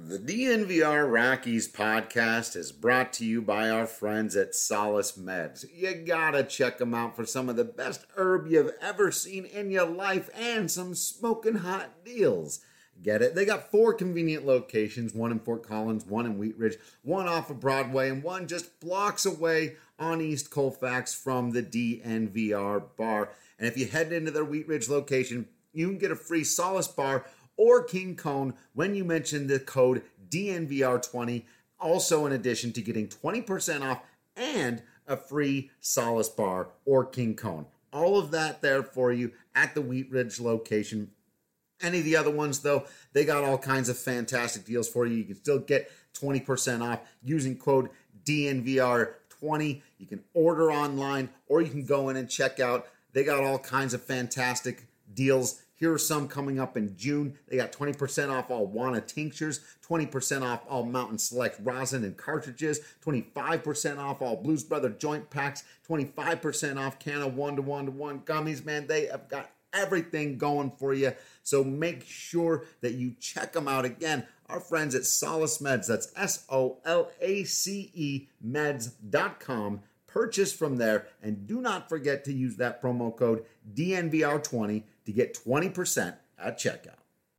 The DNVR Rockies podcast is brought to you by our friends at Solace Meds. You gotta check them out for some of the best herb you've ever seen in your life and some smoking hot deals. Get it? They got 4 convenient locations, one in Fort Collins, one in Wheat Ridge, one off of Broadway, and one just blocks away on East Colfax from the DNVR bar. And if you head into their Wheat Ridge location, you can get a free Solace bar or King Cone when you mention the code DNVR20. Also, in addition to getting 20% off and a free Solace bar or King Cone. All of that there for you at the Wheat Ridge location. Any of the other ones, though, they got all kinds of fantastic deals for you. You can still get 20% off using code DNVR20. You can order online or you can go in and check out. They got all kinds of fantastic deals. Here are some coming up in June. They got 20% off all Wana tinctures, 20% off all Mountain Select rosin and cartridges, 25% off all Blues Brother joint packs, 25% off can of 1-to-1-to-1 gummies. Man, they have got everything going for you. So make sure that you check them out. Again, our friends at Solace Meds, that's SOLACE meds.com. Purchase from there, and do not forget to use that promo code DNVR20 to get 20% at checkout.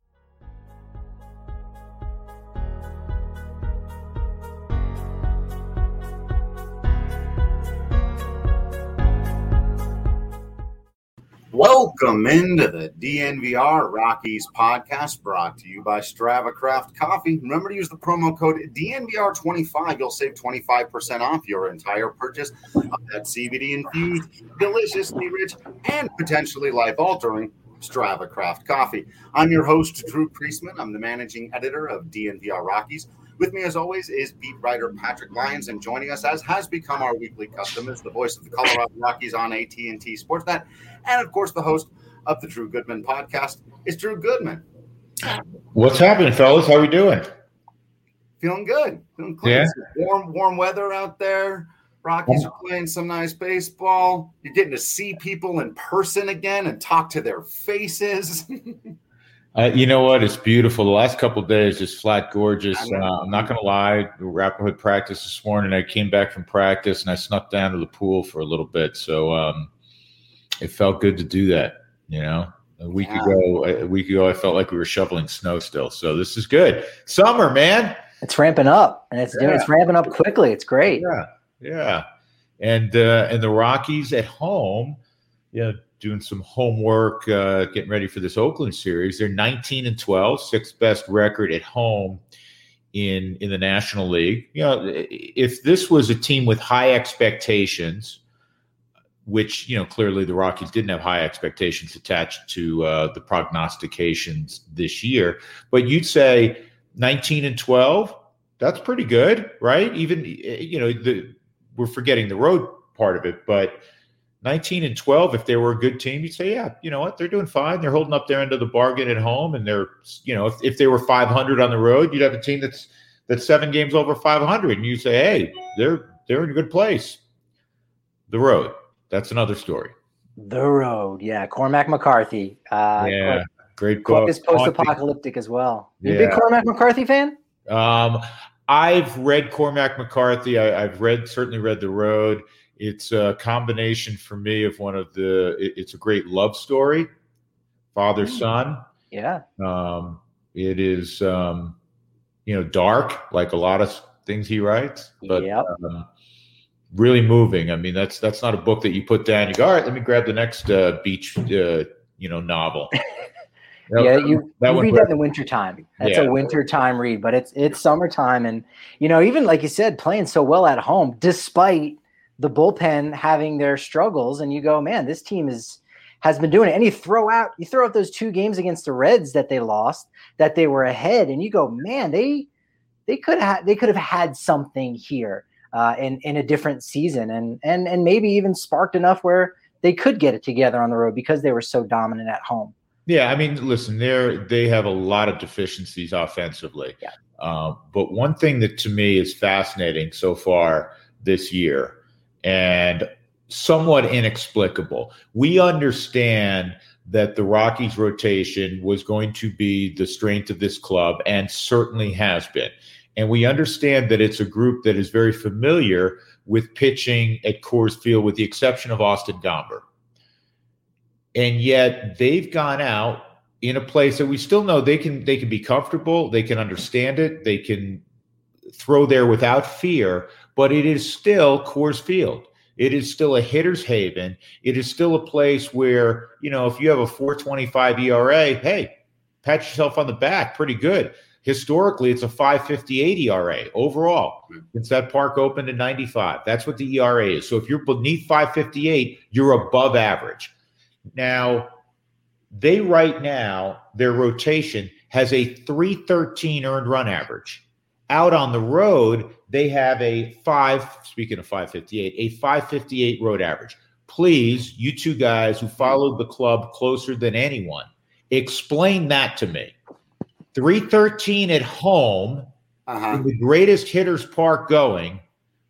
Welcome into the DNVR Rockies podcast, brought to you by Strava Craft Coffee. Remember to use the promo code DNVR25. You'll save 25% off your entire purchase of that CBD-infused, deliciously rich, and potentially life-altering Strava Craft Coffee. I'm your host, Drew Priestman. I'm the managing editor of DNVR Rockies. With me, as always, is beat writer Patrick Lyons, and joining us, as has become our weekly custom, is the voice of the Colorado Rockies on AT&T Sportsnet, and, of course, the host of the Drew Goodman podcast is Drew Goodman. What's happening, fellas? How are we doing? Feeling good. Feeling clean. Yeah. Warm weather out there. Rockies are playing some nice baseball. You're getting to see people in person again and talk to their faces. You know what? It's beautiful. The last couple of days, just flat gorgeous. I'm not going to lie. Rapid practice this morning. I came back from practice and I snuck down to the pool for a little bit. So it felt good to do that. You know, a week ago, I felt like we were shoveling snow still. So this is good. Summer, man. It's ramping up, and it's ramping up quickly. It's great. Yeah. And the Rockies at home, doing some homework, getting ready for this Oakland series. They're 19-12, sixth best record at home in the National League. You know, if this was a team with high expectations, which, clearly the Rockies didn't have high expectations attached to the prognostications this year, but you'd say 19-12, that's pretty good, right? Even, we're forgetting the road part of it, but 19-12, if they were a good team, you'd say, yeah, you know what, they're doing fine. They're holding up their end of the bargain at home, and they're, if they were 500 on the road, you'd have a team that's 7 games over 500, and you say, hey, they're in a good place. The road, that's another story. The road, yeah. Cormac McCarthy. Great book. Is post-apocalyptic as well. You a big Cormac McCarthy fan? I've read Cormac McCarthy. I've certainly read The Road. It's a combination for me of it's a great love story, father-son. Yeah. It is, dark, like a lot of things he writes, but really moving. I mean, that's not a book that you put down. You go, all right, let me grab the next beach, novel. You read that in the wintertime. That's a wintertime read, but it's summertime. And, even like you said, playing so well at home, despite the bullpen having their struggles, and you go, man, this team has been doing it. And you throw out those 2 games against the Reds that they lost, that they were ahead, and you go, man, they could have had something here in a different season, and maybe even sparked enough where they could get it together on the road because they were so dominant at home. Yeah, I mean, listen, they have a lot of deficiencies offensively. Yeah. But one thing that to me is fascinating so far this year, and somewhat inexplicable. We understand that the Rockies rotation was going to be the strength of this club, and certainly has been. And we understand that it's a group that is very familiar with pitching at Coors Field, with the exception of Austin Gomber. And yet they've gone out in a place that we still know they can be comfortable, they can understand it, they can throw there without fear, but it is still Coors Field. It is still a hitter's haven. It is still a place where, if you have a 4.25 ERA, hey, pat yourself on the back, pretty good. Historically, it's a 5.58 ERA overall since that park opened in 95. That's what the ERA is. So if you're beneath 5.58, you're above average. Now, their rotation has a 313 earned run average. Out on the road, they have speaking of 558, a 558 road average. Please, you two guys who followed the club closer than anyone, explain that to me. 313 at home, in the greatest hitter's park going,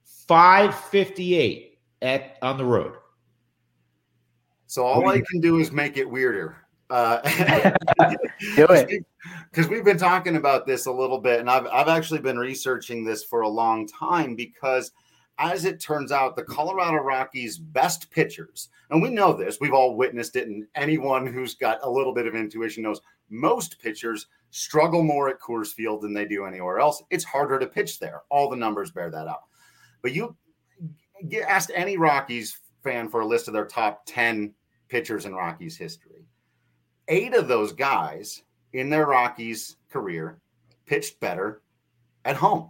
558 on the road. So all I can do is make it weirder. Do it. Because we've been talking about this a little bit, and I've actually been researching this for a long time, because as it turns out, the Colorado Rockies' best pitchers, and we know this, we've all witnessed it, and anyone who's got a little bit of intuition knows most pitchers struggle more at Coors Field than they do anywhere else. It's harder to pitch there. All the numbers bear that out. But you asked any Rockies fan for a list of their top 10 pitchers in Rockies history. 8 of those guys in their Rockies career pitched better at home.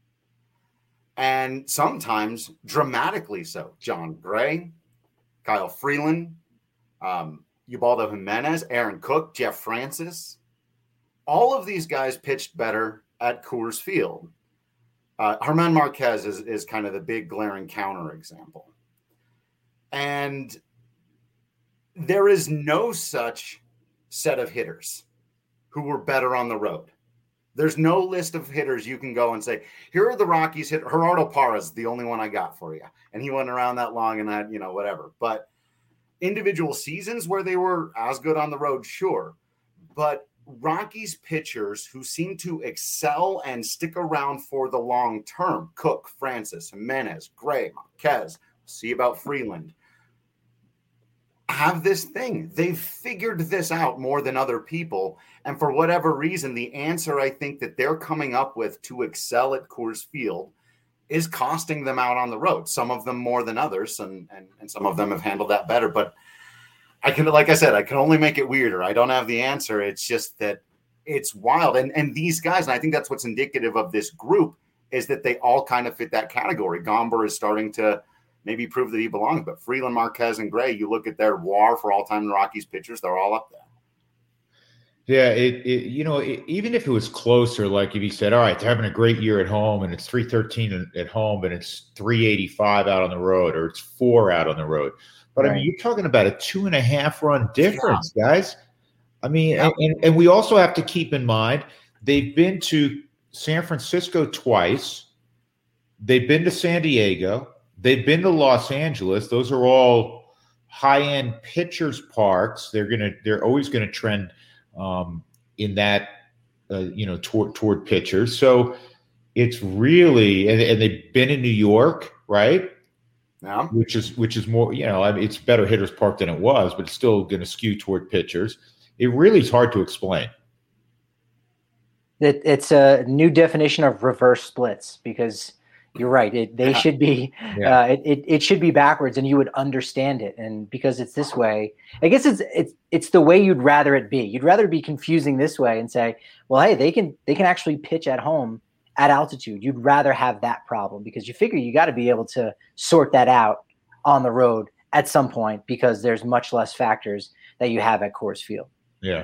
And sometimes dramatically so. John Gray, Kyle Freeland, Ubaldo Jimenez, Aaron Cook, Jeff Francis. All of these guys pitched better at Coors Field. Germán Marquez is kind of the big glaring counterexample. And there is no such set of hitters who were better on the road. There's no list of hitters you can go and say, here are the Rockies hit. Gerardo Parra is the only one I got for you. And he went around that long and had, whatever. But individual seasons where they were as good on the road, sure. But Rockies pitchers who seem to excel and stick around for the long term, Cook, Francis, Jimenez, Gray, Marquez, see about Freeland, have this thing. They've figured this out more than other people. And for whatever reason, the answer I think that they're coming up with to excel at Coors Field is costing them out on the road. Some of them more than others, and some of them have handled that better. But I can only make it weirder. I don't have the answer. It's just that it's wild. And these guys, and I think that's what's indicative of this group, is that they all kind of fit that category. Gomber is starting to maybe prove that he belongs, but Freeland, Marquez, and Gray, you look at their WAR for all-time Rockies pitchers, they're all up there. Yeah, even if it was closer, like if he said, all right, they're having a great year at home, and it's 313 at home, and it's 385 out on the road, or it's 4 out on the road. But right. I mean, you're talking about a 2.5 run difference, guys. I mean, and we also have to keep in mind, they've been to San Francisco twice. They've been to San Diego. They've been to Los Angeles. Those are all high-end pitchers' parks. They're always gonna trend in that toward pitchers. So it's really and they've been in New York, right? Yeah. Which is more, it's better hitters' park than it was, but it's still going to skew toward pitchers. It really is hard to explain. It's a new definition of reverse splits, because you're right. They should be. Yeah. It should be backwards, and you would understand it. And because it's this way, I guess it's the way you'd rather it be. You'd rather be confusing this way and say, well, hey, they can actually pitch at home at altitude. You'd rather have that problem, because you figure you got to be able to sort that out on the road at some point, because there's much less factors that you have at Coors Field. Yeah.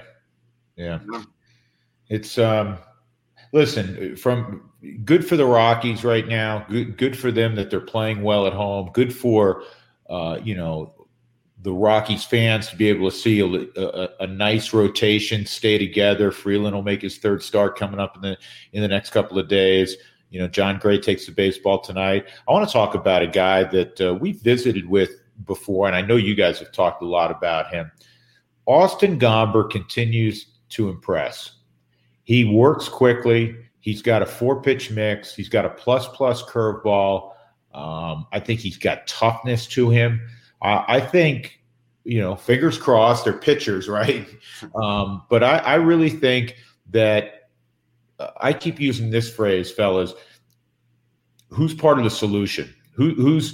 It's listen, from good for the Rockies right now. Good for them that they're playing well at home. Good for the Rockies fans to be able to see a nice rotation, stay together. Freeland will make his third start coming up in the next couple of days. John Gray takes the baseball tonight. I want to talk about a guy that we visited with before, and I know you guys have talked a lot about him. Austin Gomber continues to impress. He works quickly. He's got a 4-pitch mix. He's got a plus curveball. I think he's got toughness to him. I think, fingers crossed, they're pitchers, right? But I really think that I keep using this phrase, fellas. Who's part of the solution? Who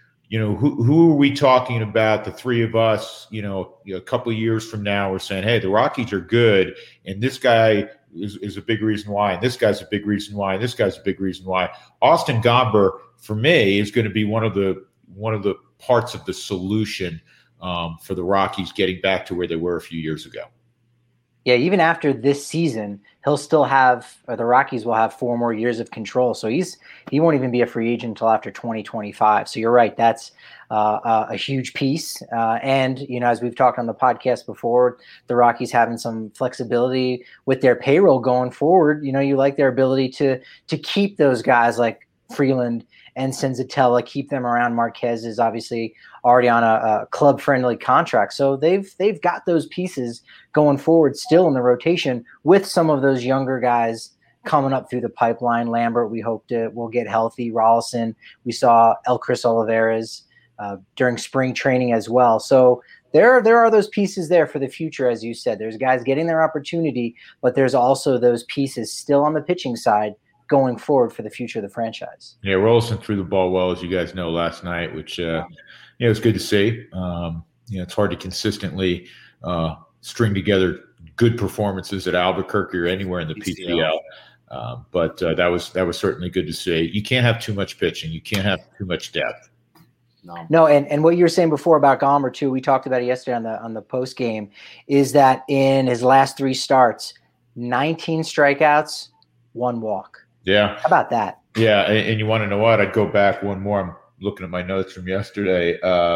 are we talking about? The three of us, a couple of years from now, we're saying, hey, the Rockies are good, and this guy is a big reason why, and this guy's a big reason why, and this guy's a big reason why. Austin Gomber, for me, is going to be one of the parts of the solution for the Rockies getting back to where they were a few years ago. Yeah, even after this season, he'll still have, or the Rockies will have 4 more years of control. So he won't even be a free agent until after 2025. So you're right, that's a huge piece. And as we've talked on the podcast before, the Rockies having some flexibility with their payroll going forward. You like their ability to keep those guys like Freeland and Senzatella, keep them around. Marquez is obviously already on a club-friendly contract. So they've got those pieces going forward still in the rotation with some of those younger guys coming up through the pipeline. Lambert, we hope will get healthy. Rolison, we saw Elkris Olivares during spring training as well. So there are those pieces there for the future, as you said. There's guys getting their opportunity, but there's also those pieces still on the pitching side going forward for the future of the franchise. Yeah, Rolison threw the ball well, as you guys know, last night, which it's good to see. It's hard to consistently string together good performances at Albuquerque or anywhere in the PCL. But that was certainly good to see. You can't have too much pitching. You can't have too much depth. No, and what you were saying before about Gomber too, we talked about it yesterday on the post game, is that in his last 3 starts, 19 strikeouts, 1 walk. Yeah. How about that? Yeah, and you want to know what? I'd go back one more. I'm looking at my notes from yesterday.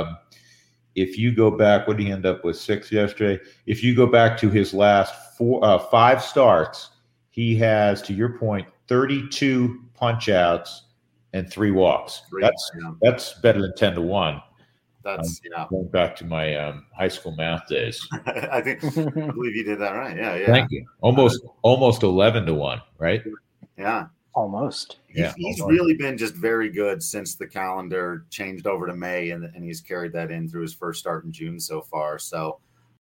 If you go back, what did he end up with, 6 yesterday? If you go back to his last 5 starts, he has, to your point, 32 punch-outs and 3 walks. That's better than 10-1. That's going back to my high school math days. I believe you did that right. Yeah. Thank you. Almost 11-1, right? Yeah. Almost. He's really been just very good since the calendar changed over to May, and he's carried that in through his first start in June so far. So,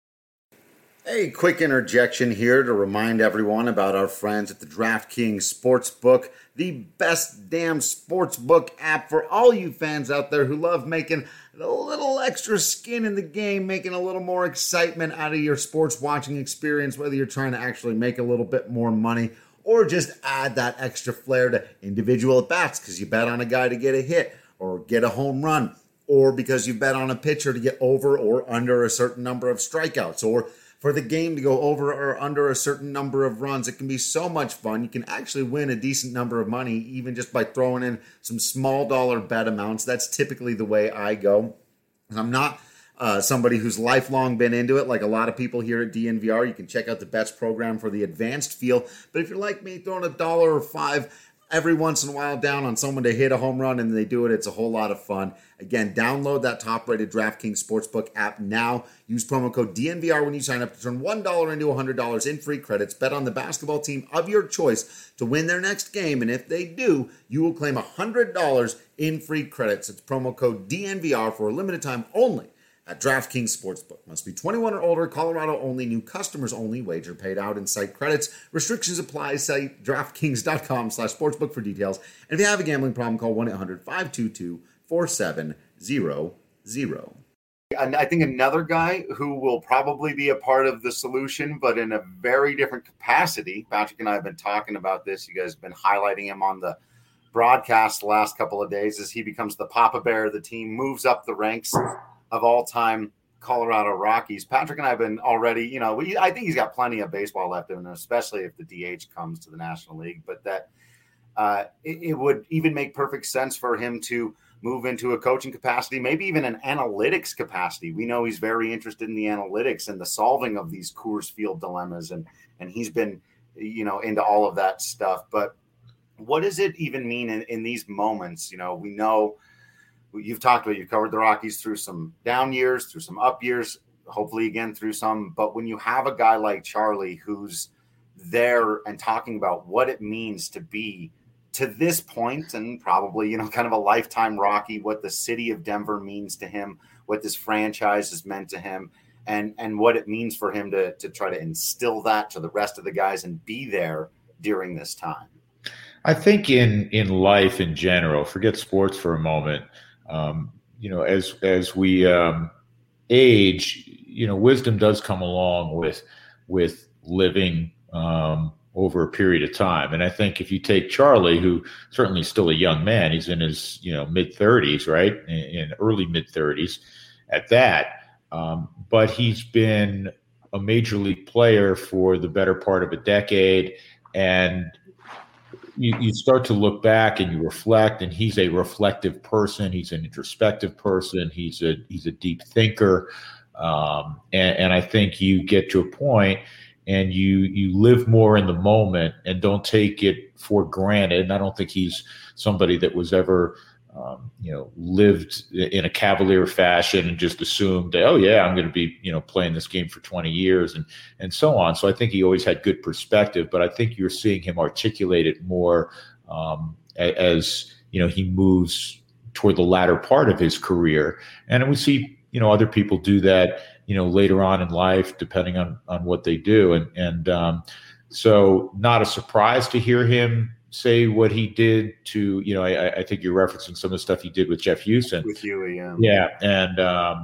a quick interjection here to remind everyone about our friends at the DraftKings Sportsbook, the best damn sportsbook app for all you fans out there who love making a little extra skin in the game, making a little more excitement out of your sports watching experience, whether you're trying to actually make a little bit more money or just add that extra flair to individual at-bats because you bet on a guy to get a hit or get a home run, or because you bet on a pitcher to get over or under a certain number of strikeouts, or for the game to go over or under a certain number of runs. It can be so much fun. You can actually win a decent number of money even just by throwing in some small dollar bet amounts. That's typically the way I go. And I'm not somebody who's lifelong been into it, like a lot of people here at DNVR. You can check out the bets program for the advanced feel. But if you're like me, throwing $1 or $5 every once in a while down on someone to hit a home run and they do it, it's a whole lot of fun. Again, download that top-rated DraftKings Sportsbook app now. Use promo code DNVR when you sign up to turn $1 into $100 in free credits. Bet on the basketball team of your choice to win their next game. And if they do, you will claim $100 in free credits. It's promo code DNVR for a limited time only at DraftKings Sportsbook. Must be 21 or older, Colorado only, new customers only, wager paid out in site credits. Restrictions apply. Site DraftKings.com/sportsbook for details. And if you have a gambling problem, call 1-800-522-4700. And I think another guy who will probably be a part of the solution, but in a very different capacity, Patrick and I have been talking about this. You guys have been highlighting him on the broadcast the last couple of days as he becomes the Papa Bear of the team, moves up the ranks of all-time Colorado Rockies. Patrick and I have been already, I think he's got plenty of baseball left in him, especially if the DH comes to the National League, but that it would even make perfect sense for him to move into a coaching capacity, maybe even an analytics capacity. We know he's very interested in the analytics and the solving of these Coors Field dilemmas, and he's been, into all of that stuff. But what does it even mean in these moments? We know you've talked about, you've covered the Rockies through some down years, through some up years. hopefully again through some. But when you have a guy like Charlie who's there and talking about what it means to be to this point and probably, kind of a lifetime Rocky, what the city of Denver means to him, what this franchise has meant to him, and what it means for him to try to instill that to the rest of the guys and be there during this time. I think in life in general, forget sports for a moment, as we age, wisdom does come along with living over a period of time. And I think if you take Charlie, who certainly is still a young man, he's in his mid-30s, right, in early mid-30s at that, but he's been a major league player for the better part of a decade, and you start to look back and you reflect, and he's a reflective person. He's an introspective person. He's a deep thinker. And I think you get to a point and you live more in the moment and don't take it for granted. And I don't think he's somebody that was ever, lived in a cavalier fashion and just assumed that, oh yeah, I'm going to be, playing this game for 20 years and so on. So I think he always had good perspective, but I think you're seeing him articulate it more as he moves toward the latter part of his career. And we see, other people do that, later on in life, depending on what they do. And so not a surprise to hear him say what he did to, I think you're referencing some of the stuff he did with Jeff Houston. With Huey, yeah. Yeah. And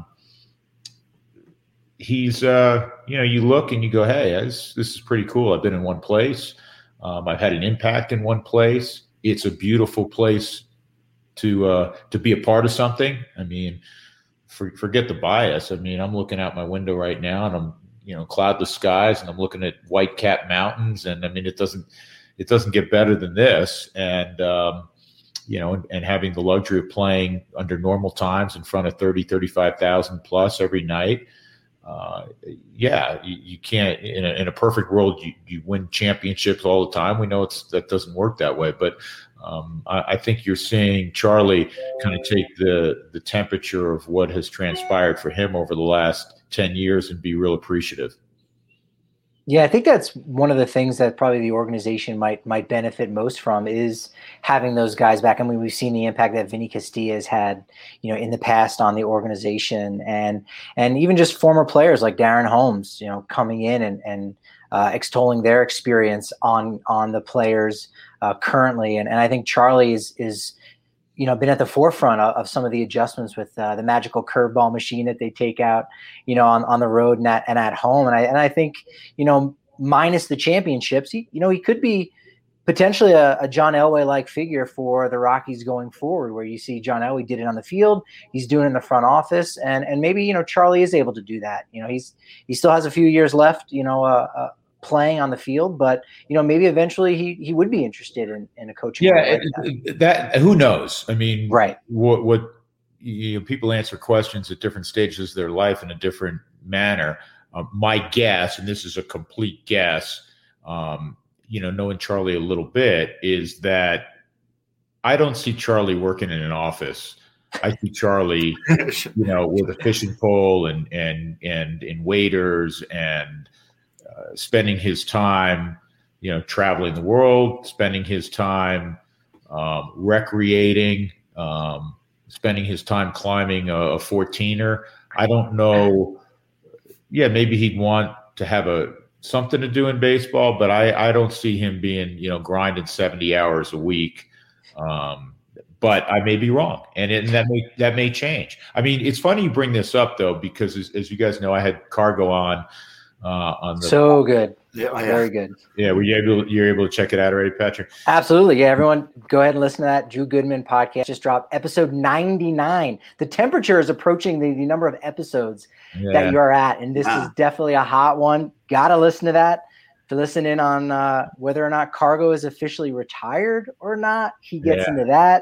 he's, you look and you go, hey, this is pretty cool. I've been in one place. I've had an impact in one place. It's a beautiful place to be a part of something. I mean, forget the bias. I mean, I'm looking out my window right now and I'm, cloudless skies, and I'm looking at White Cap Mountains. And I mean, it doesn't get better than this. And, and having the luxury of playing under normal times in front of 35,000 plus every night. You can't, in a perfect world, you win championships all the time. We know that doesn't work that way, but I think you're seeing Charlie kind of take the temperature of what has transpired for him over the last 10 years and be real appreciative. Yeah, I think that's one of the things that probably the organization might benefit most from is having those guys back. I mean, we've seen the impact that Vinny Castilla has had, in the past on the organization, and even just former players like Darren Holmes, coming in and extolling their experience on the players currently. And I think Charlie is been at the forefront of some of the adjustments with the magical curveball machine that they take out, on the road and at home. And I think, minus the championships, he could be potentially a John Elway-like figure for the Rockies going forward, where you see John Elway did it on the field, he's doing it in the front office, and maybe, Charlie is able to do that. He still has a few years left, playing on the field, but maybe eventually he would be interested in a coaching. Yeah, that who knows? I mean, right? What people answer questions at different stages of their life in a different manner. My guess, and this is a complete guess, knowing Charlie a little bit, is that I don't see Charlie working in an office. I see Charlie, with a fishing pole and in waiters and spending his time, traveling the world, spending his time recreating, spending his time climbing a 14er. I don't know. Yeah, maybe he'd want to have something to do in baseball, but I don't see him being, grinding 70 hours a week. But I may be wrong, and that may change. I mean, it's funny you bring this up though, because as you guys know, I had Cargo on the so good. Yeah, very good. Yeah, you're able to check it out already, Patrick? Absolutely. Yeah, everyone go ahead and listen to that. Drew Goodman podcast just dropped, episode 99. The temperature is approaching the number of episodes that you are at, and this is definitely a hot one. Gotta listen to that to listen in on whether or not Cargo is officially retired or not. He gets into that.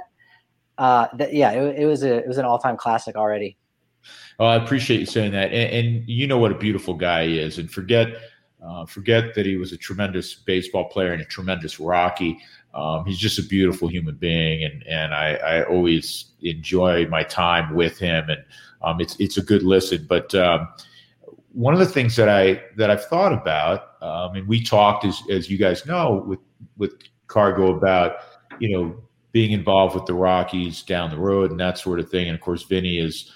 It was an all-time classic already. Oh, I appreciate you saying that. And you know what a beautiful guy he is. And forget that he was a tremendous baseball player and a tremendous Rocky. He's just a beautiful human being. And I always enjoy my time with him. And it's a good listen. But one of the things that I've thought about, and we talked, as you guys know, with Cargo about, being involved with the Rockies down the road and that sort of thing. And of course, Vinny is,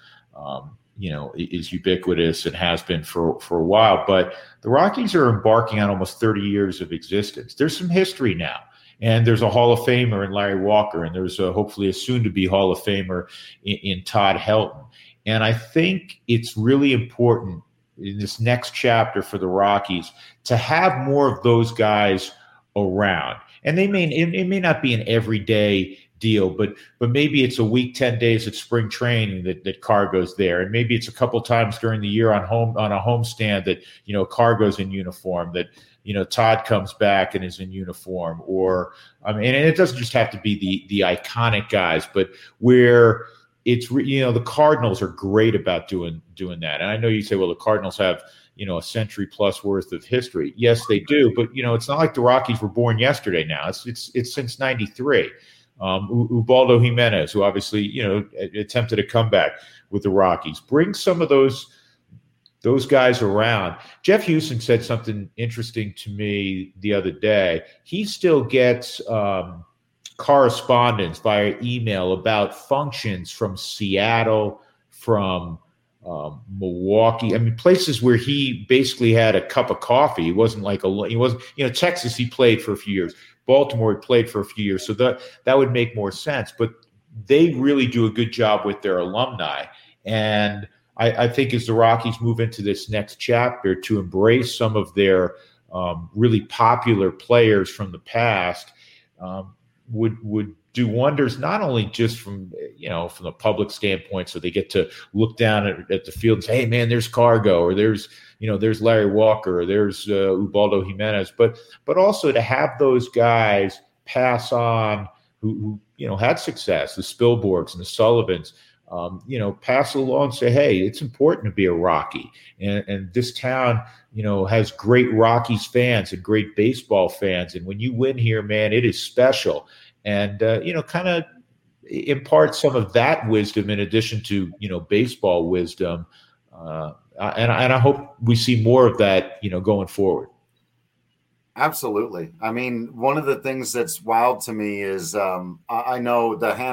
is ubiquitous and has been for a while. But the Rockies are embarking on almost 30 years of existence. There's some history now. And there's a Hall of Famer in Larry Walker, and there's hopefully a soon-to-be Hall of Famer in Todd Helton. And I think it's really important in this next chapter for the Rockies to have more of those guys around. And it may not be an everyday deal, but maybe it's a week, 10 days at spring training that Cargo's there, and maybe it's a couple times during the year on a homestand that Cargo's in uniform, that Todd comes back and is in uniform, or and it doesn't just have to be the iconic guys, but where it's the Cardinals are great about doing that. And I know you say, well, the Cardinals have a century plus worth of history. Yes, they do, but it's not like the Rockies were born yesterday. Now it's since '93. Ubaldo Jimenez, who obviously attempted a comeback with the Rockies, bring some of those guys around. Jeff Houston said something interesting to me the other day. He still gets correspondence via email about functions from Seattle, from Milwaukee. I mean, places where he basically had a cup of coffee. He wasn't Texas, he played for a few years. Baltimore, he played for a few years. So that would make more sense. But they really do a good job with their alumni. And I think as the Rockies move into this next chapter to embrace some of their really popular players from the past, would do wonders, not only just from the public standpoint, so they get to look down at the field and say, hey man, there's Cargo, or there's Larry Walker, or there's Ubaldo Jimenez, but also to have those guys pass on who had success, the Spielborgs and the Sullivans, pass along and say, hey, it's important to be a Rocky. And this town, has great Rockies fans and great baseball fans. And when you win here, man, it is special. And, kind of impart some of that wisdom in addition to, baseball wisdom. And I hope we see more of that, going forward. Absolutely. I mean, one of the things that's wild to me is I know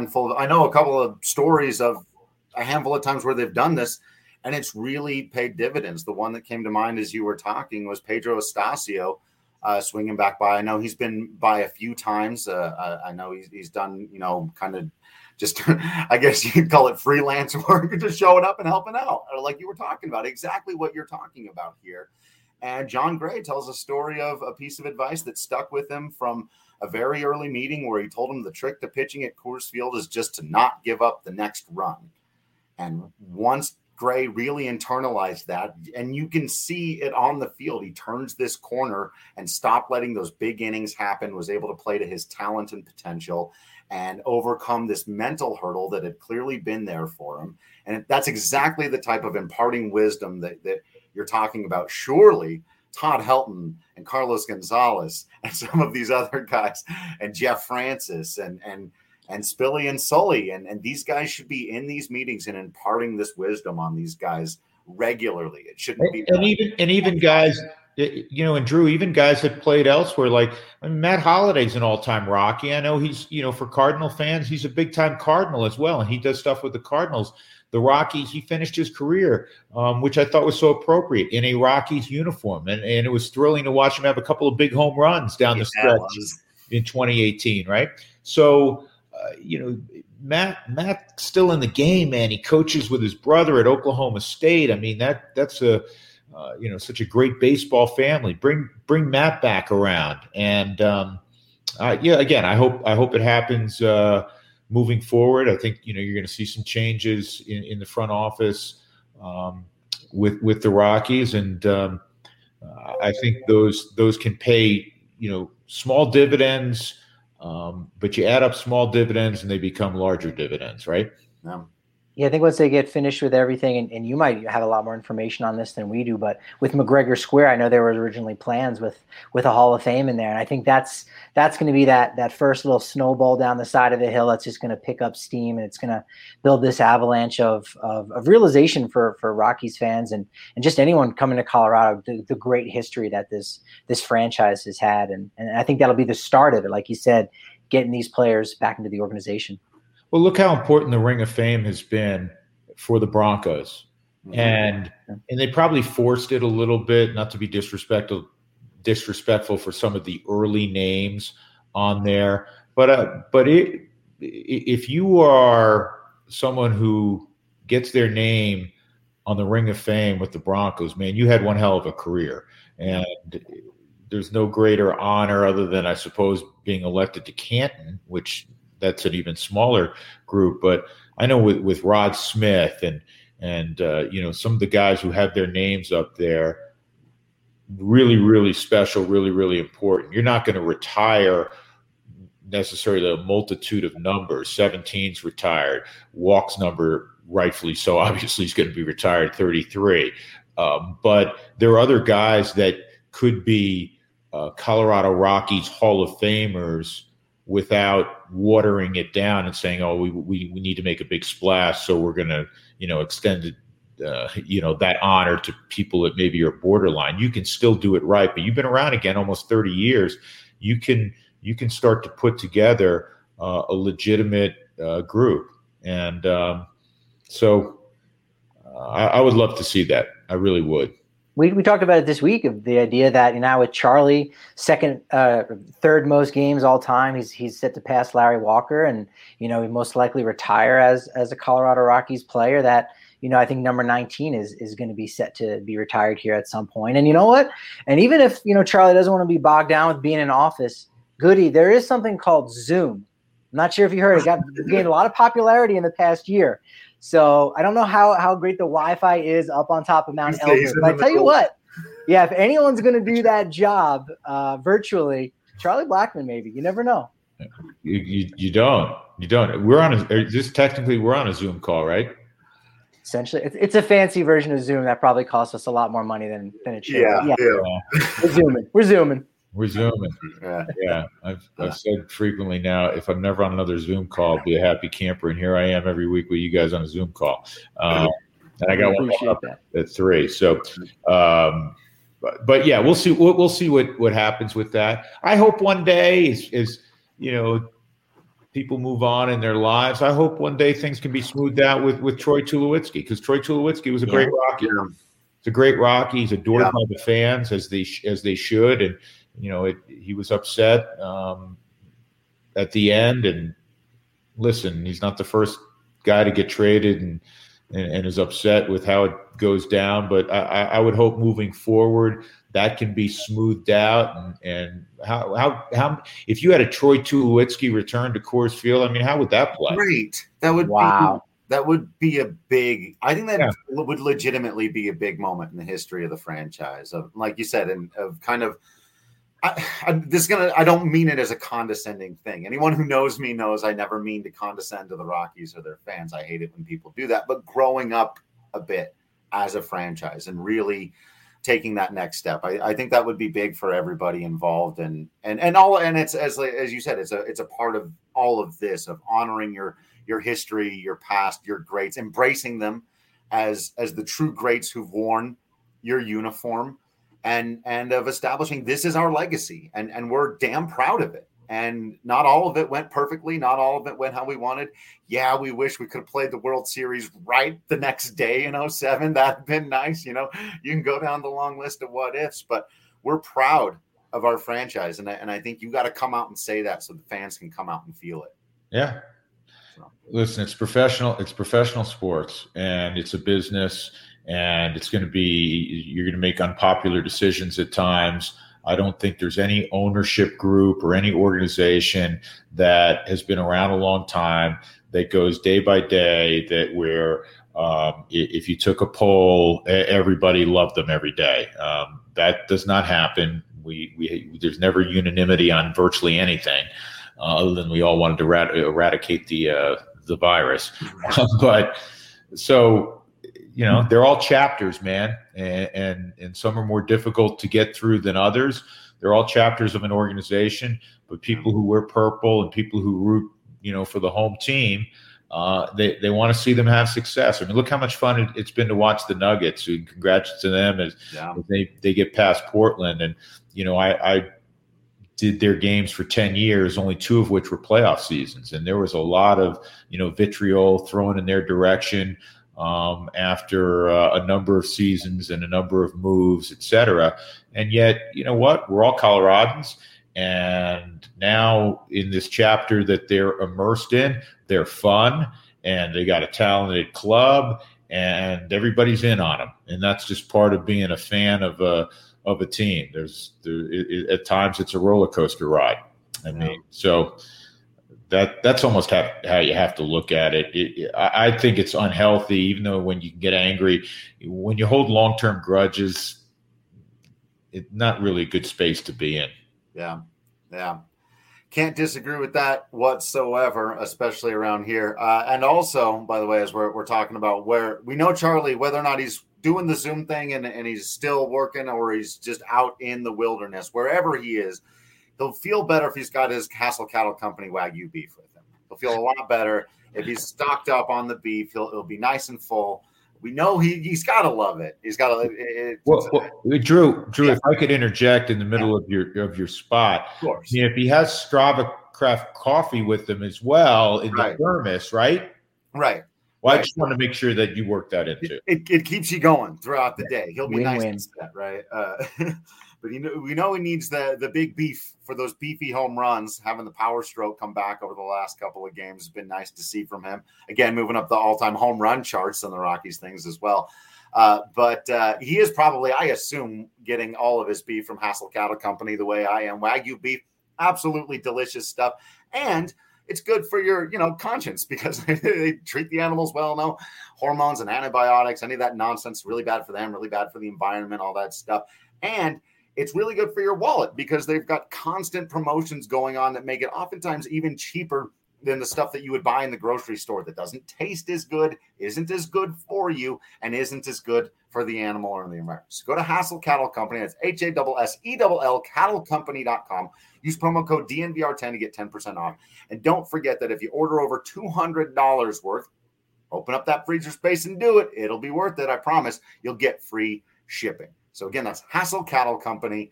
a couple of stories of a handful of times where they've done this, and it's really paid dividends. The one that came to mind as you were talking was Pedro Estacio swinging back by. I know he's been by a few times. I know he's done, kind of just, I guess you could call it freelance work, just showing up and helping out, like you were talking about, exactly what you're talking about here. And John Gray tells a story of a piece of advice that stuck with him from a very early meeting where he told him the trick to pitching at Coors Field is just to not give up the next run. And once Gray really internalized that, and you can see it on the field, he turns this corner and stopped letting those big innings happen, was able to play to his talent and potential and overcome this mental hurdle that had clearly been there for him. And that's exactly the type of imparting wisdom that you're talking about. Surely Todd Helton and Carlos Gonzalez and some of these other guys and Jeff Francis and Spilly and Sully and these guys should be in these meetings and imparting this wisdom on these guys regularly. It shouldn't be. And even guys, and Drew, even guys that played elsewhere, like Matt Holliday's an all-time Rocky. I know he's, for Cardinal fans, he's a big-time Cardinal as well, and he does stuff with the Cardinals. The Rockies, he finished his career, which I thought was so appropriate, in a Rockies uniform. And it was thrilling to watch him have a couple of big home runs down the stretch in 2018, right? So, Matt's still in the game, man. He coaches with his brother at Oklahoma State. I mean, that's such a great baseball family. Bring Matt back around. And, again, I hope it happens moving forward. I think, you're going to see some changes in the front office with the Rockies. And I think those can pay, small dividends, but you add up small dividends and they become larger dividends, right? Yeah. Yeah, I think once they get finished with everything, and you might have a lot more information on this than we do, but with McGregor Square, I know there were originally plans with a Hall of Fame in there, and I think that's going to be that first little snowball down the side of the hill that's just going to pick up steam, and it's going to build this avalanche of realization for Rockies fans and just anyone coming to Colorado, the great history that this franchise has had, and I think that'll be the start of it, like you said, getting these players back into the organization. Well, look how important the Ring of Fame has been for the Broncos. And they probably forced it a little bit, not to be disrespectful for some of the early names on there. But if you are someone who gets their name on the Ring of Fame with the Broncos, man, you had one hell of a career. And there's no greater honor other than, I suppose, being elected to Canton, which – that's an even smaller group, but I know with Rod Smith and some of the guys who have their names up there, really, really special, really, really important. You're not going to retire necessarily a multitude of numbers. 17's retired. Walk's number, rightfully so, obviously is going to be retired, 33. But there are other guys that could be Colorado Rockies Hall of Famers without watering it down and saying, oh, we need to make a big splash, so we're going to, extend it, that honor to people that maybe are borderline. You can still do it right, but you've been around again almost 30 years. You can start to put together a legitimate group. And so I would love to see that. I really would. We talked about it this week, of the idea that now with Charlie, third most games all time, he's set to pass Larry Walker, and he most likely retire as a Colorado Rockies player. That I think number 19 is going to be set to be retired here at some point. And you know what? And even if Charlie doesn't want to be bogged down with being in office, Goody, there is something called Zoom. I'm not sure if you heard it. Gained a lot of popularity in the past year. So I don't know how great the Wi-Fi is up on top of Mount Elbert. But I tell you what, if anyone's going to do that job virtually, Charlie Blackmon, maybe. You never know. You don't. We're on a Zoom call, right? Essentially, it's a fancy version of Zoom that probably costs us a lot more money than it should. Yeah. We're zooming. Yeah. I've said frequently now, if I'm never on another Zoom call, I'll be a happy camper. And here I am every week with you guys on a Zoom call. And I got one up at 3. So, but yeah, we'll see. We'll see what happens with that. I hope one day is people move on in their lives. I hope one day things can be smoothed out with Troy Tulowitzki, because Troy Tulowitzki was a great Rocky. It's a great Rocky. He's adored by the fans as they should. And, he was upset at the end. And listen, he's not the first guy to get traded and is upset with how it goes down. But I would hope moving forward that can be smoothed out. And how if you had a Troy Tulowitzki return to Coors Field, I mean, how would that play? Great. That would be a big. I think that would legitimately be a big moment in the history of the franchise. Of, like you said, and of kind of. I don't mean it as a condescending thing. Anyone who knows me knows I never mean to condescend to the Rockies or their fans. I hate it when people do that. But growing up a bit as a franchise and really taking that next step, I think that would be big for everybody involved. And it's as you said, it's a part of all of this, of honoring your history, your past, your greats, embracing them as the true greats who've worn your uniform. And of establishing this is our legacy, and we're damn proud of it. And not all of it went perfectly. Not all of it went how we wanted. Yeah, we wish we could have played the World Series right the next day in 2007. That'd been nice. You can go down the long list of what ifs, but we're proud of our franchise. And I think you got to come out and say that so the fans can come out and feel it. Yeah. Listen, it's professional sports, and it's a business. And you're going to make unpopular decisions at times. I don't think there's any ownership group or any organization that has been around a long time that goes day by day that where if you took a poll, everybody loved them every day. That does not happen. There's never unanimity on virtually anything other than we all wanted to eradicate the virus. But So, they're all chapters, man, and some are more difficult to get through than others. They're all chapters of an organization, but people who wear purple and people who root, for the home team, they want to see them have success. I mean, look how much fun it's been to watch the Nuggets. And congrats to them as they get past Portland. And I did their games for 10 years, only 2 of which were playoff seasons, and there was a lot of vitriol thrown in their direction after a number of seasons and a number of moves, etc. And yet, we're all Coloradans. And now in this chapter that they're immersed in, they're fun and they got a talented club and everybody's in on them. And that's just part of being a fan of a team. At times it's a roller coaster ride. I mean, so that's almost how you have to look at it. I think it's unhealthy, even though when you get angry, when you hold long-term grudges, it's not really a good space to be in. Yeah. Can't disagree with that whatsoever, especially around here. And also, by the way, as we're talking about where we know Charlie, whether or not he's doing the Zoom thing and he's still working or he's just out in the wilderness, wherever he is, he'll feel better if he's got his Hassel Cattle Company Wagyu beef with him. He'll feel a lot better if he's stocked up on the beef. It'll be nice and full. We know he's got to love it. He's got to. Drew, if I could interject in the middle of your spot. Of course. If he has Strava Craft coffee with him as well in the thermos, right? Right. Well, I just want to make sure that you work that into. It keeps you going throughout the day. He'll be nice to that, right? But we know he needs the big beef for those beefy home runs. Having the power stroke come back over the last couple of games has been nice to see from him. Again, moving up the all-time home run charts on the Rockies things as well. But he is probably, I assume, getting all of his beef from Hassel Cattle Company the way I am. Wagyu beef, absolutely delicious stuff. And it's good for your, conscience because they treat the animals well. No hormones and antibiotics, any of that nonsense, really bad for them, really bad for the environment, all that stuff. And it's really good for your wallet because they've got constant promotions going on that make it oftentimes even cheaper than the stuff that you would buy in the grocery store that doesn't taste as good, isn't as good for you, and isn't as good for the animal or the environment. So go to Hassel Cattle Company. That's HASSELL cattlecompany.com. Use promo code DNVR10 to get 10% off. And don't forget that if you order over $200 worth, open up that freezer space and do it. It'll be worth it, I promise. You'll get free shipping. So again, that's Hassel Cattle Company,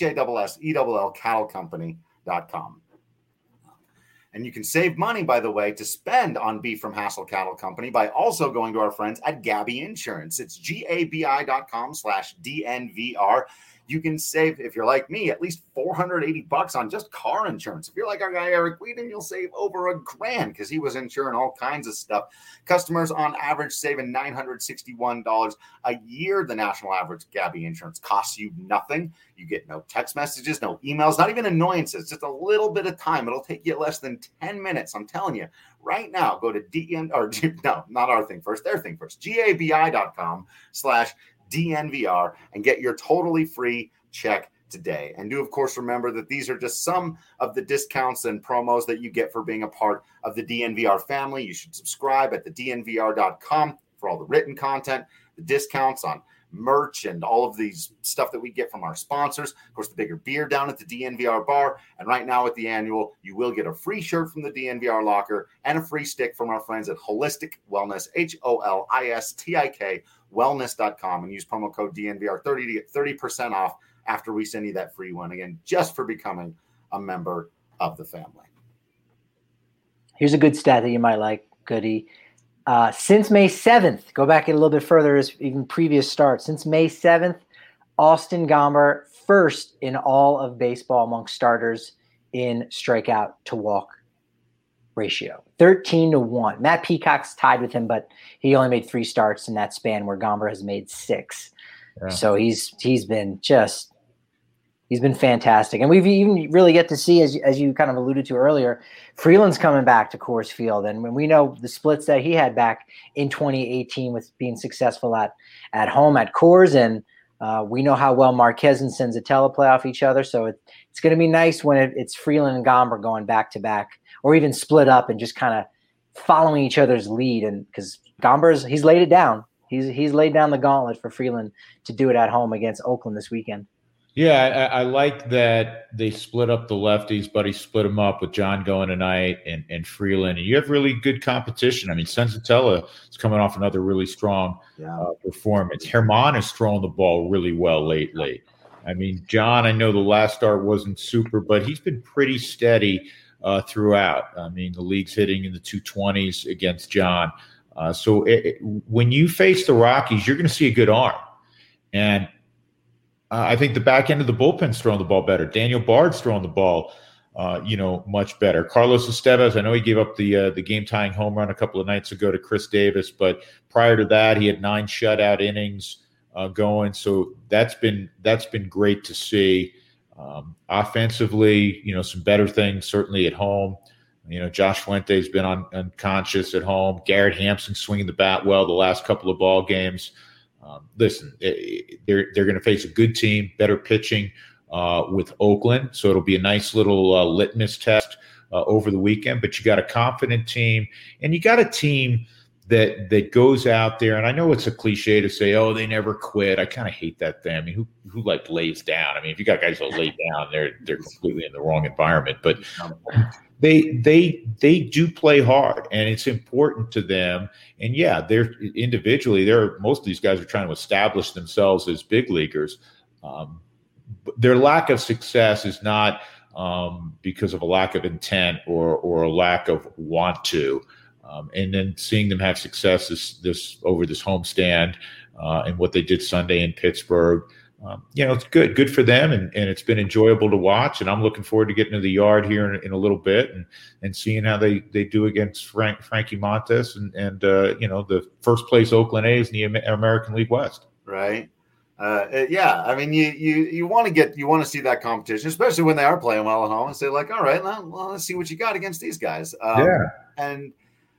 HASSELL cattlecompany.com. And you can save money, by the way, to spend on beef from Hassel Cattle Company by also going to our friends at Gabi Insurance. It's GABI.com/DNVR. You can save, if you're like me, at least $480 on just car insurance. If you're like our guy Eric Whedon, you'll save over $1,000 because he was insuring all kinds of stuff. Customers on average saving $961 a year. The national average Gabi Insurance costs you nothing. You get no text messages, no emails, not even annoyances, just a little bit of time. It'll take you less than 10 minutes. I'm telling you right now, go to not our thing first, their thing first, GABI.com/DNVR and get your totally free check today. And do, of course, remember that these are just some of the discounts and promos that you get for being a part of the DNVR family. You should subscribe at thednvr.com for all the written content, the discounts on merch, and all of these stuff that we get from our sponsors. Of course, the bigger beer down at the DNVR bar. And right now at the annual, you will get a free shirt from the DNVR locker and a free stick from our friends at Holistic Wellness, HOLISTIK wellness.com, and use promo code DNVR30 to get 30% off after we send you that free one, again, just for becoming a member of the family. Here's a good stat that you might like, Goody. Since May 7th, go back a little bit further as even previous starts. Since May 7th, Austin Gomber first in all of baseball among starters in strikeout to walk ratio, 13-1. Matt Peacock's tied with him, but he only made 3 starts in that span where Gomber has made 6. Yeah. So he's been fantastic. And we've even really get to see, as you kind of alluded to earlier, Freeland's coming back to Coors Field. And when we know the splits that he had back in 2018 with being successful at home at Coors, and we know how well Marquez and Senzatella play off each other. So it's going to be nice when it's Freeland and Gomber going back to back, or even split up and just kind of following each other's lead. And because he's laid it down. He's laid down the gauntlet for Freeland to do it at home against Oakland this weekend. Yeah, I like that they split up the lefties. Buddy split them up with John going tonight and Freeland. And you have really good competition. I mean, Senzatella is coming off another really strong performance. Germán is throwing the ball really well lately. I mean, John, I know the last start wasn't super, but he's been pretty steady throughout. I mean, the league's hitting in the 220s against John. So when you face the Rockies, you're going to see a good arm. And I think the back end of the bullpen's throwing the ball better. Daniel Bard's throwing the ball, much better. Carlos Estevez, I know he gave up the game-tying home run a couple of nights ago to Chris Davis, but prior to that, he had 9 shutout innings going. So that's been great to see. Offensively, some better things certainly at home. Josh Fuente's been unconscious at home. Garrett Hampson swinging the bat well the last couple of ball games. Listen, they're going to face a good team, better pitching with Oakland. So it'll be a nice little litmus test over the weekend. But you got a confident team, and you got a team that goes out there. And I know it's a cliche to say, "Oh, they never quit." I kind of hate that thing. I mean, who lays down? I mean, if you got guys that lay down, they're completely in the wrong environment. But they do play hard, and it's important to them. And yeah, they're individually, most of these guys are trying to establish themselves as big leaguers. But their lack of success is not because of a lack of intent or a lack of want to. And then seeing them have success this homestand and what they did Sunday in Pittsburgh. It's good for them, and it's been enjoyable to watch. And I'm looking forward to getting to the yard here in a little bit and seeing how they do against Frankie Montas and the first place Oakland A's in the American League West. Right. I mean, you want to see that competition, especially when they are playing well at home, and say like, all right, well, let's see what you got against these guys. And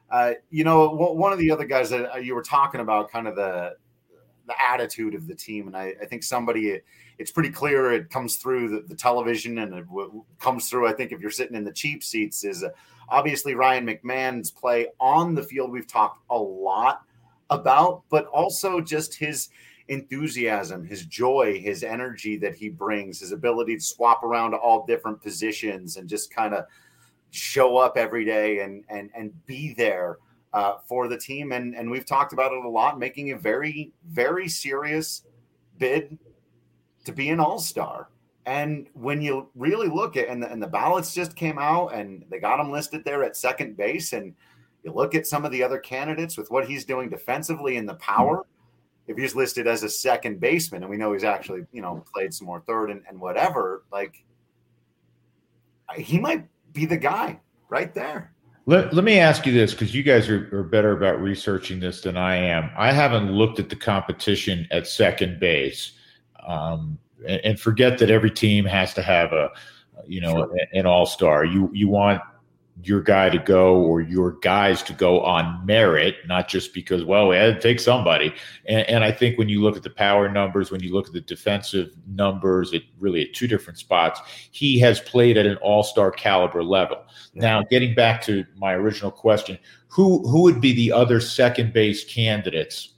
one of the other guys that you were talking about, kind of the attitude of the team. And I think it's pretty clear it comes through the television, and it comes through, I think, if you're sitting in the cheap seats, is obviously Ryan McMahon's play on the field. We've talked a lot about, but also just his enthusiasm, his joy, his energy that he brings, his ability to swap around to all different positions and just kind of show up every day and be there for the team. And we've talked about it a lot, making a very, very serious bid to be an all-star. And when you really look at, and the ballots just came out and they got him listed there at second base, and you look at some of the other candidates with what he's doing defensively and the power, if he's listed as a second baseman, and we know he's actually, played some more third and whatever, like he might be the guy right there. Let me ask you this, because you guys are better about researching this than I am. I haven't looked at the competition at second base, and forget that every team has to have an all-star. You want your guy to go, or your guys to go on merit, not just because, well, we had to take somebody. And I think when you look at the power numbers, when you look at the defensive numbers, it really at two different spots, he has played at an all-star caliber level. Yeah. Now, getting back to my original question, who would be the other second base candidates?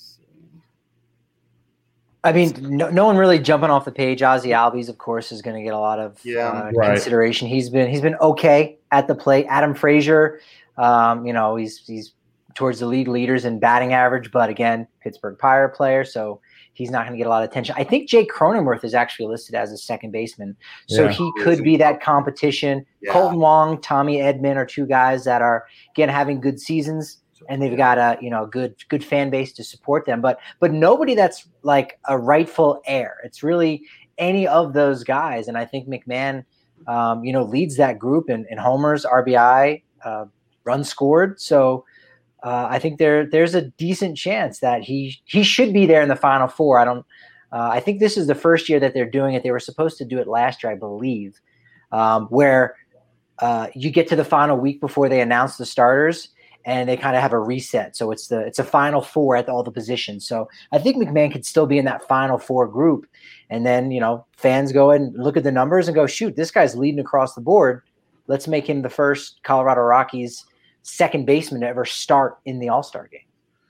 I mean, no one really jumping off the page. Ozzie Albies, of course, is going to get a lot of consideration. He's been okay at the plate. Adam Frazier, he's towards the league leaders in batting average, but again, Pittsburgh Pirate player, so he's not going to get a lot of attention. I think Jake Cronenworth is actually listed as a second baseman, so he could be that competition. Yeah. Colton Wong, Tommy Edman are two guys that are, again, having good seasons. And they've got a good fan base to support them, but nobody that's like a rightful heir. It's really any of those guys, and I think McMahon, leads that group in homers, RBI, runs scored. So I think there's a decent chance that he should be there in the Final Four. I think this is the first year that they're doing it. They were supposed to do it last year, I believe, where you get to the final week before they announce the starters, and they kind of have a reset. So it's a Final Four at all the positions. So I think McMahon could still be in that Final Four group. And then, fans go and look at the numbers and go, shoot, this guy's leading across the board. Let's make him the first Colorado Rockies second baseman to ever start in the All-Star game.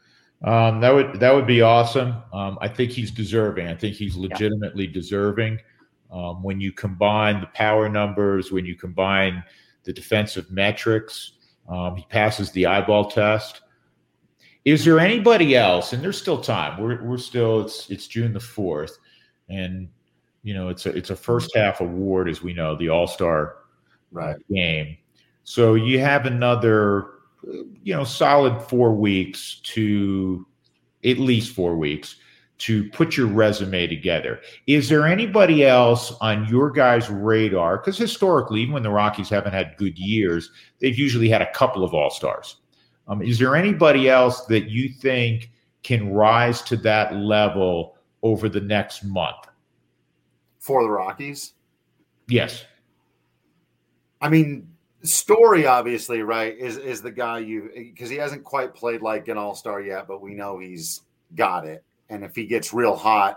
That would be awesome. I think he's deserving. I think he's legitimately deserving. When you combine the power numbers, when you combine the defensive metrics, he passes the eyeball test. Is there anybody else? And there's still time. We're still. It's June the 4th, and it's a first half award, as we know, the All-Star game. So you have another, solid 4 weeks at least 4 weeks to put your resume together. Is there anybody else on your guys' radar? Because historically, even when the Rockies haven't had good years, they've usually had a couple of All-Stars. Is there anybody else that you think can rise to that level over the next month? For the Rockies? Yes. I mean, Story, obviously, right, is the guy because he hasn't quite played like an all-star yet, but we know he's got it. And if he gets real hot,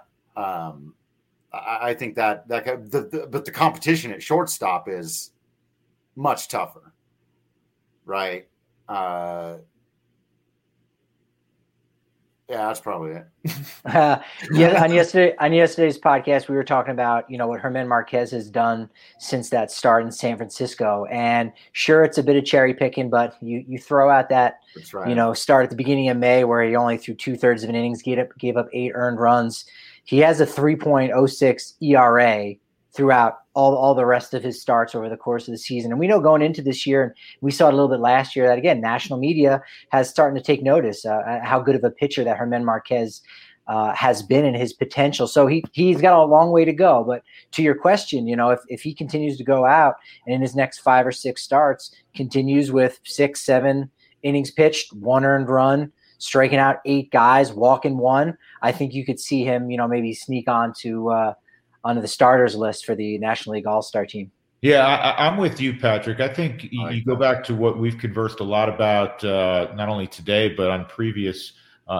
I think but the competition at shortstop is much tougher, right? Yeah, that's probably it. On yesterday's podcast, we were talking about, what Germán Márquez has done since that start in San Francisco. And sure, it's a bit of cherry picking, but you throw out that, start at the beginning of May where he only threw 2/3 of an innings, gave up 8 earned runs. He has a 3.06 ERA throughout all the rest of his starts over the course of the season. And we know going into this year, and we saw it a little bit last year, that, again, national media has starting to take notice how good of a pitcher that Germán Márquez has been in his potential. So he's got a long way to go. But to your question, if he continues to go out and in his next 5 or 6 starts continues with 6, 7 innings pitched, 1 earned run, striking out 8 guys, walking 1, I think you could see him, maybe sneak onto the starters list for the National League All-Star team. Yeah, I'm with you, Patrick. I think you go back to what we've conversed a lot about, not only today, but on previous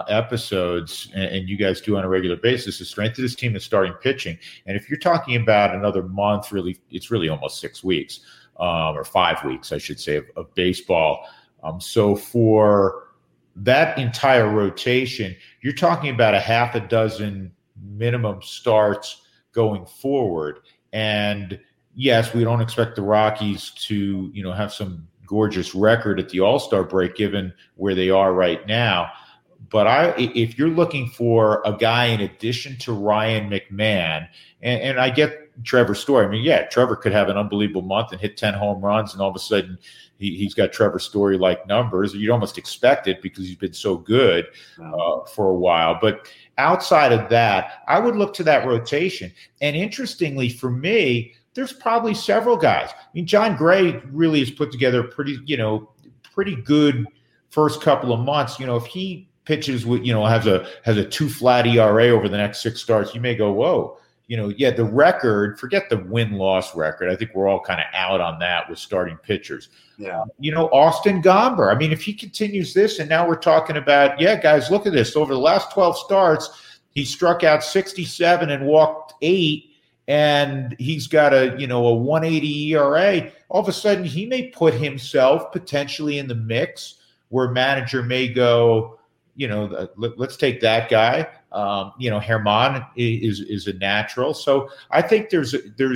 episodes, and you guys do on a regular basis, the strength of this team is starting pitching. And if you're talking about another month, it's really almost 6 weeks, or 5 weeks, I should say, of baseball. So for that entire rotation, you're talking about a half a dozen minimum starts going forward. And yes, we don't expect the Rockies to, have some gorgeous record at the All-Star break, given where they are right now. But if you're looking for a guy in addition to Ryan McMahon, and I get Trevor Story. I mean, yeah, Trevor could have an unbelievable month and hit 10 home runs, and all of a sudden he's got Trevor Story-like numbers. You'd almost expect it because he's been so good for a while. But outside of that, I would look to that rotation. And interestingly for me, there's probably several guys. I mean, John Gray really has put together a pretty good first couple of months. If he pitches with, has a 2 flat ERA over the next 6 starts, you may go, whoa. The record, forget the win-loss record. I think we're all kind of out on that with starting pitchers. Yeah. Austin Gomber. I mean, if he continues this, and now we're talking about, guys, look at this. Over the last 12 starts, he struck out 67 and walked 8, and he's got a 1.80 ERA. All of a sudden, he may put himself potentially in the mix where a manager may go, let's take that guy. Germán is a natural. So I think there's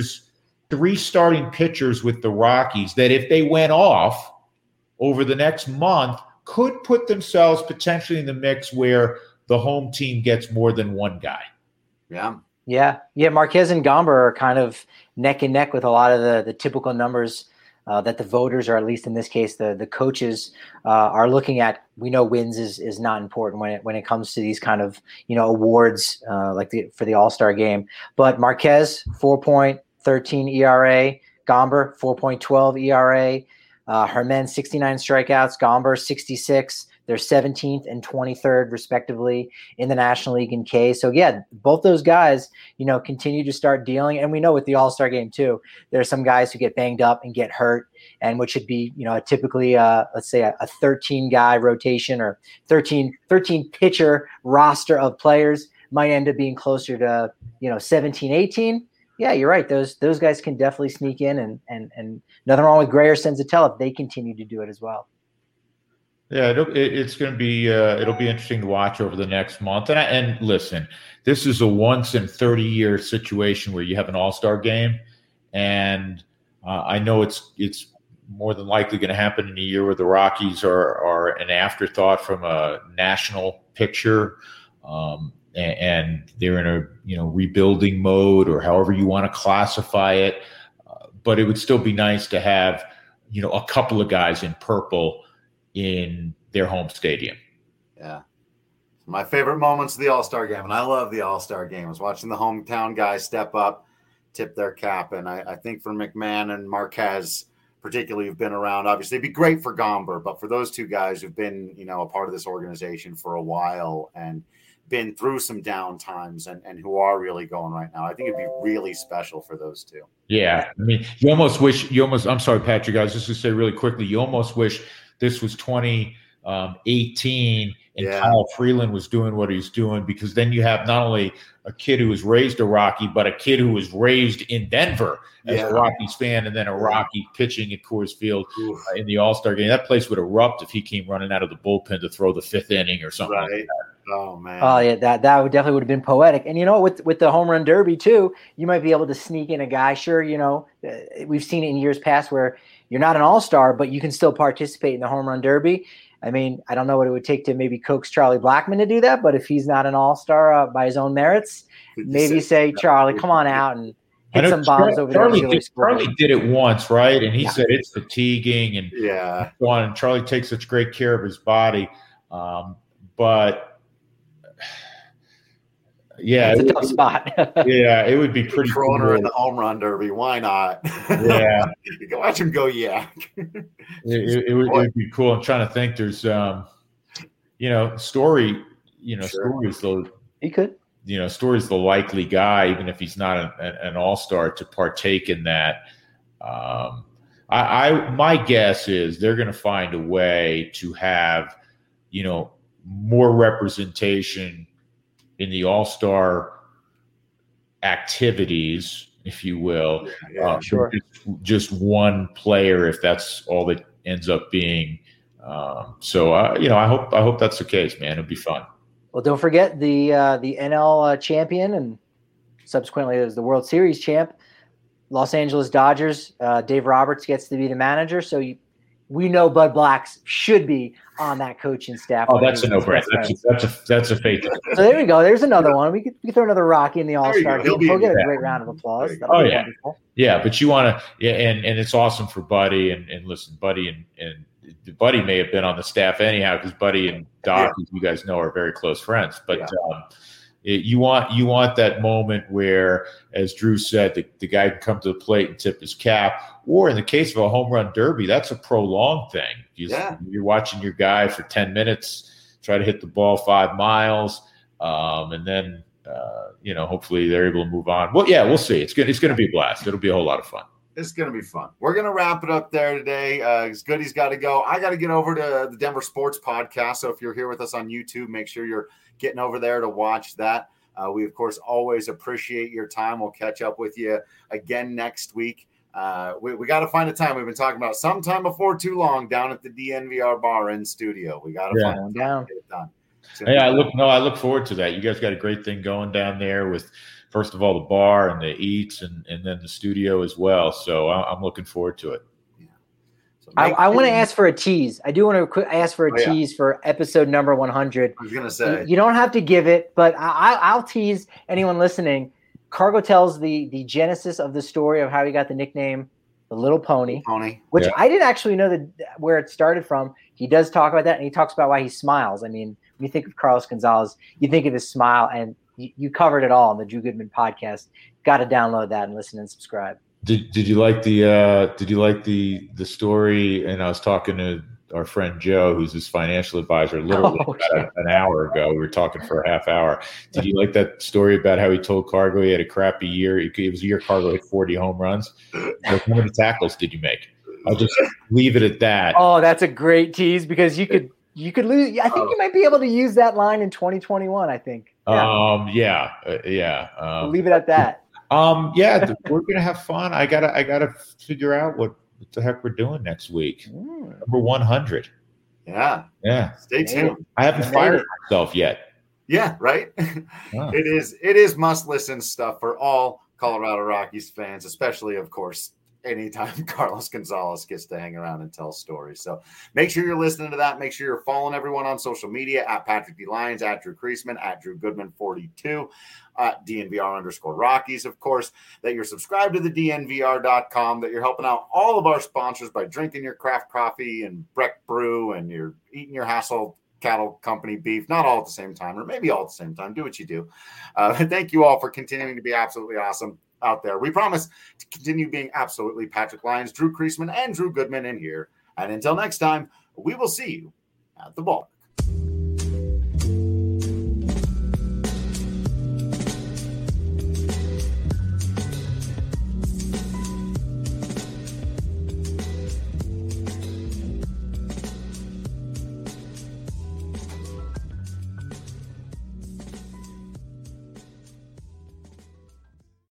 3 starting pitchers with the Rockies that if they went off over the next month could put themselves potentially in the mix where the home team gets more than one guy. Yeah. Yeah. Márquez and Gomber are kind of neck and neck with a lot of the typical numbers that the voters, or at least in this case, the coaches are looking at. We know wins is not important when it comes to these kind of awards for the All-Star game. But Márquez 4.13 ERA, Gomber 4.12 ERA, Germán 69 strikeouts, Gomber 66. They're 17th and 23rd, respectively, in the National League in K. So, yeah, both those guys, continue to start dealing. And we know with the All-Star game, too, there are some guys who get banged up and get hurt, and which should be, typically, let's say, a 13-guy rotation or 13-pitcher roster of players might end up being closer to, 17, 18. Yeah, you're right. Those guys can definitely sneak in, and nothing wrong with Gray or Senzatella if they continue to do it as well. Yeah, it's going to be it'll be interesting to watch over the next month. And listen, this is a once in 30-year situation where you have an all-star game, and I know it's more than likely going to happen in a year where the Rockies are an afterthought from a national picture, and they're in a rebuilding mode or however you want to classify it. But it would still be nice to have a couple of guys in purple in their home stadium. Yeah. My favorite moments of the All-Star game, and I love the All-Star game, is watching the hometown guys step up, tip their cap. And I think for McMahon and Marquez, particularly, who've been around, obviously it'd be great for Gomber, but for those two guys who've been, a part of this organization for a while and been through some down times and who are really going right now, I think it'd be really special for those two. Yeah. I mean, I'm sorry, Patrick, I was just going to say really quickly, you almost wish this was 2018 and Kyle Freeland was doing what he's doing, because then you have not only a kid who was raised a Rocky, but a kid who was raised in Denver as a Rockies fan, and then a Rocky pitching at Coors Field in the All-Star game. That place would erupt if he came running out of the bullpen to throw the fifth inning or something like that. Oh, man. Oh, yeah, that would definitely would have been poetic. And, with the home run derby, too, you might be able to sneak in a guy. Sure, we've seen it in years past where you're not an all-star, but you can still participate in the home run derby. I mean, I don't know what it would take to maybe coax Charlie Blackmon to do that, but if he's not an all-star by his own merits, maybe say, Charlie, come on out and hit some bombs over there. Charlie did it once, right? And he said it's fatiguing and so on. And Charlie takes such great care of his body. But it's a tough spot. It would be pretty cool. Her in the home run derby. Why not? Yeah. You can watch him go yak. It would be cool. I'm trying to think. There's Story, Story's the he could. Story's the likely guy, even if he's not an all-star, to partake in that. My guess is they're going to find a way to have, more representation in the all-star activities, if you will. Sure. Just one player, if that's all that ends up being. I hope that's the case, man. It'll be fun. Well, don't forget the NL champion and subsequently there's the World Series champ, Los Angeles Dodgers. Dave Roberts gets to be the manager, so we know Bud Blacks should be on that coaching staff. Oh, that's a no-brainer. That's a faith. So there we go. There's another one. We could throw another Rocky in the All-Star game. He'll get a great round of applause. Oh, yeah. Wonderful. Yeah, but you want to and it's awesome for Buddy. And listen, Buddy and Buddy may have been on the staff anyhow, because Buddy and Doc, as you guys know, are very close friends. But you want that moment where, as Drew said, the guy can come to the plate and tip his cap. Or in the case of a home run derby, that's a prolonged thing. You're watching your guy for 10 minutes, try to hit the ball 5 miles, and then hopefully they're able to move on. Well, we'll see. It's going to be a blast. It'll be a whole lot of fun. It's going to be fun. We're going to wrap it up there today. Goody's got to go. I got to get over to the Denver Sports Podcast. So if you're here with us on YouTube, make sure you're getting over there to watch that. We, of course, always appreciate your time. We'll catch up with you again next week. We got to find a time. We've been talking about sometime before too long down at the DNVR bar in studio. We got to find one down. Get it done. I look forward to that. You guys got a great thing going down there with, first of all, the bar and the eats and then the studio as well. So I'm looking forward to it. Yeah. So I want to ask for a tease. I do want to ask for a tease for episode number 100. I was going to say. You don't have to give it, but I'll tease anyone listening. Cargo tells the genesis of the story of how he got the nickname the Little Pony, which I didn't actually know where it started from. He does talk about that, and he talks about why he smiles. I mean, when you think of Carlos Gonzalez, you think of his smile, and you covered it all on the Drew Goodman podcast. Got to download that and listen and subscribe. Did you like the story? And I was talking to our friend Joe, who's his financial advisor, literally an hour ago. We were talking for a half hour. Did you like that story about how he told Cargo he had a crappy year? It was a year Cargo hit 40 home runs. Like, how many tackles did you make? I'll just leave it at that. Oh, that's a great tease, because you could lose. I think you might be able to use that line in 2021. I think. We'll leave it at that. We're gonna have fun. I gotta figure out what the heck we're doing next week. Number 100. Yeah. Yeah. Stay tuned. I haven't fired myself yet. Yeah, right. Wow. It is must listen stuff for all Colorado Rockies fans, especially, of course, anytime Carlos Gonzalez gets to hang around and tell stories. So make sure you're listening to that. Make sure you're following everyone on social media at Patrick D. Lyons, at Drew Creasman, at Drew Goodman 42, at DNVR_Rockies, of course, that you're subscribed to the DNVR.com, that you're helping out all of our sponsors by drinking your craft coffee and Breck Brew, and you're eating your Hassel Cattle Company beef, not all at the same time, or maybe all at the same time. Do what you do. Thank you all for continuing to be absolutely awesome out there. We promise to continue being absolutely Patrick Lyons, Drew Creasman, and Drew Goodman in here. And until next time, we will see you at the ballpark.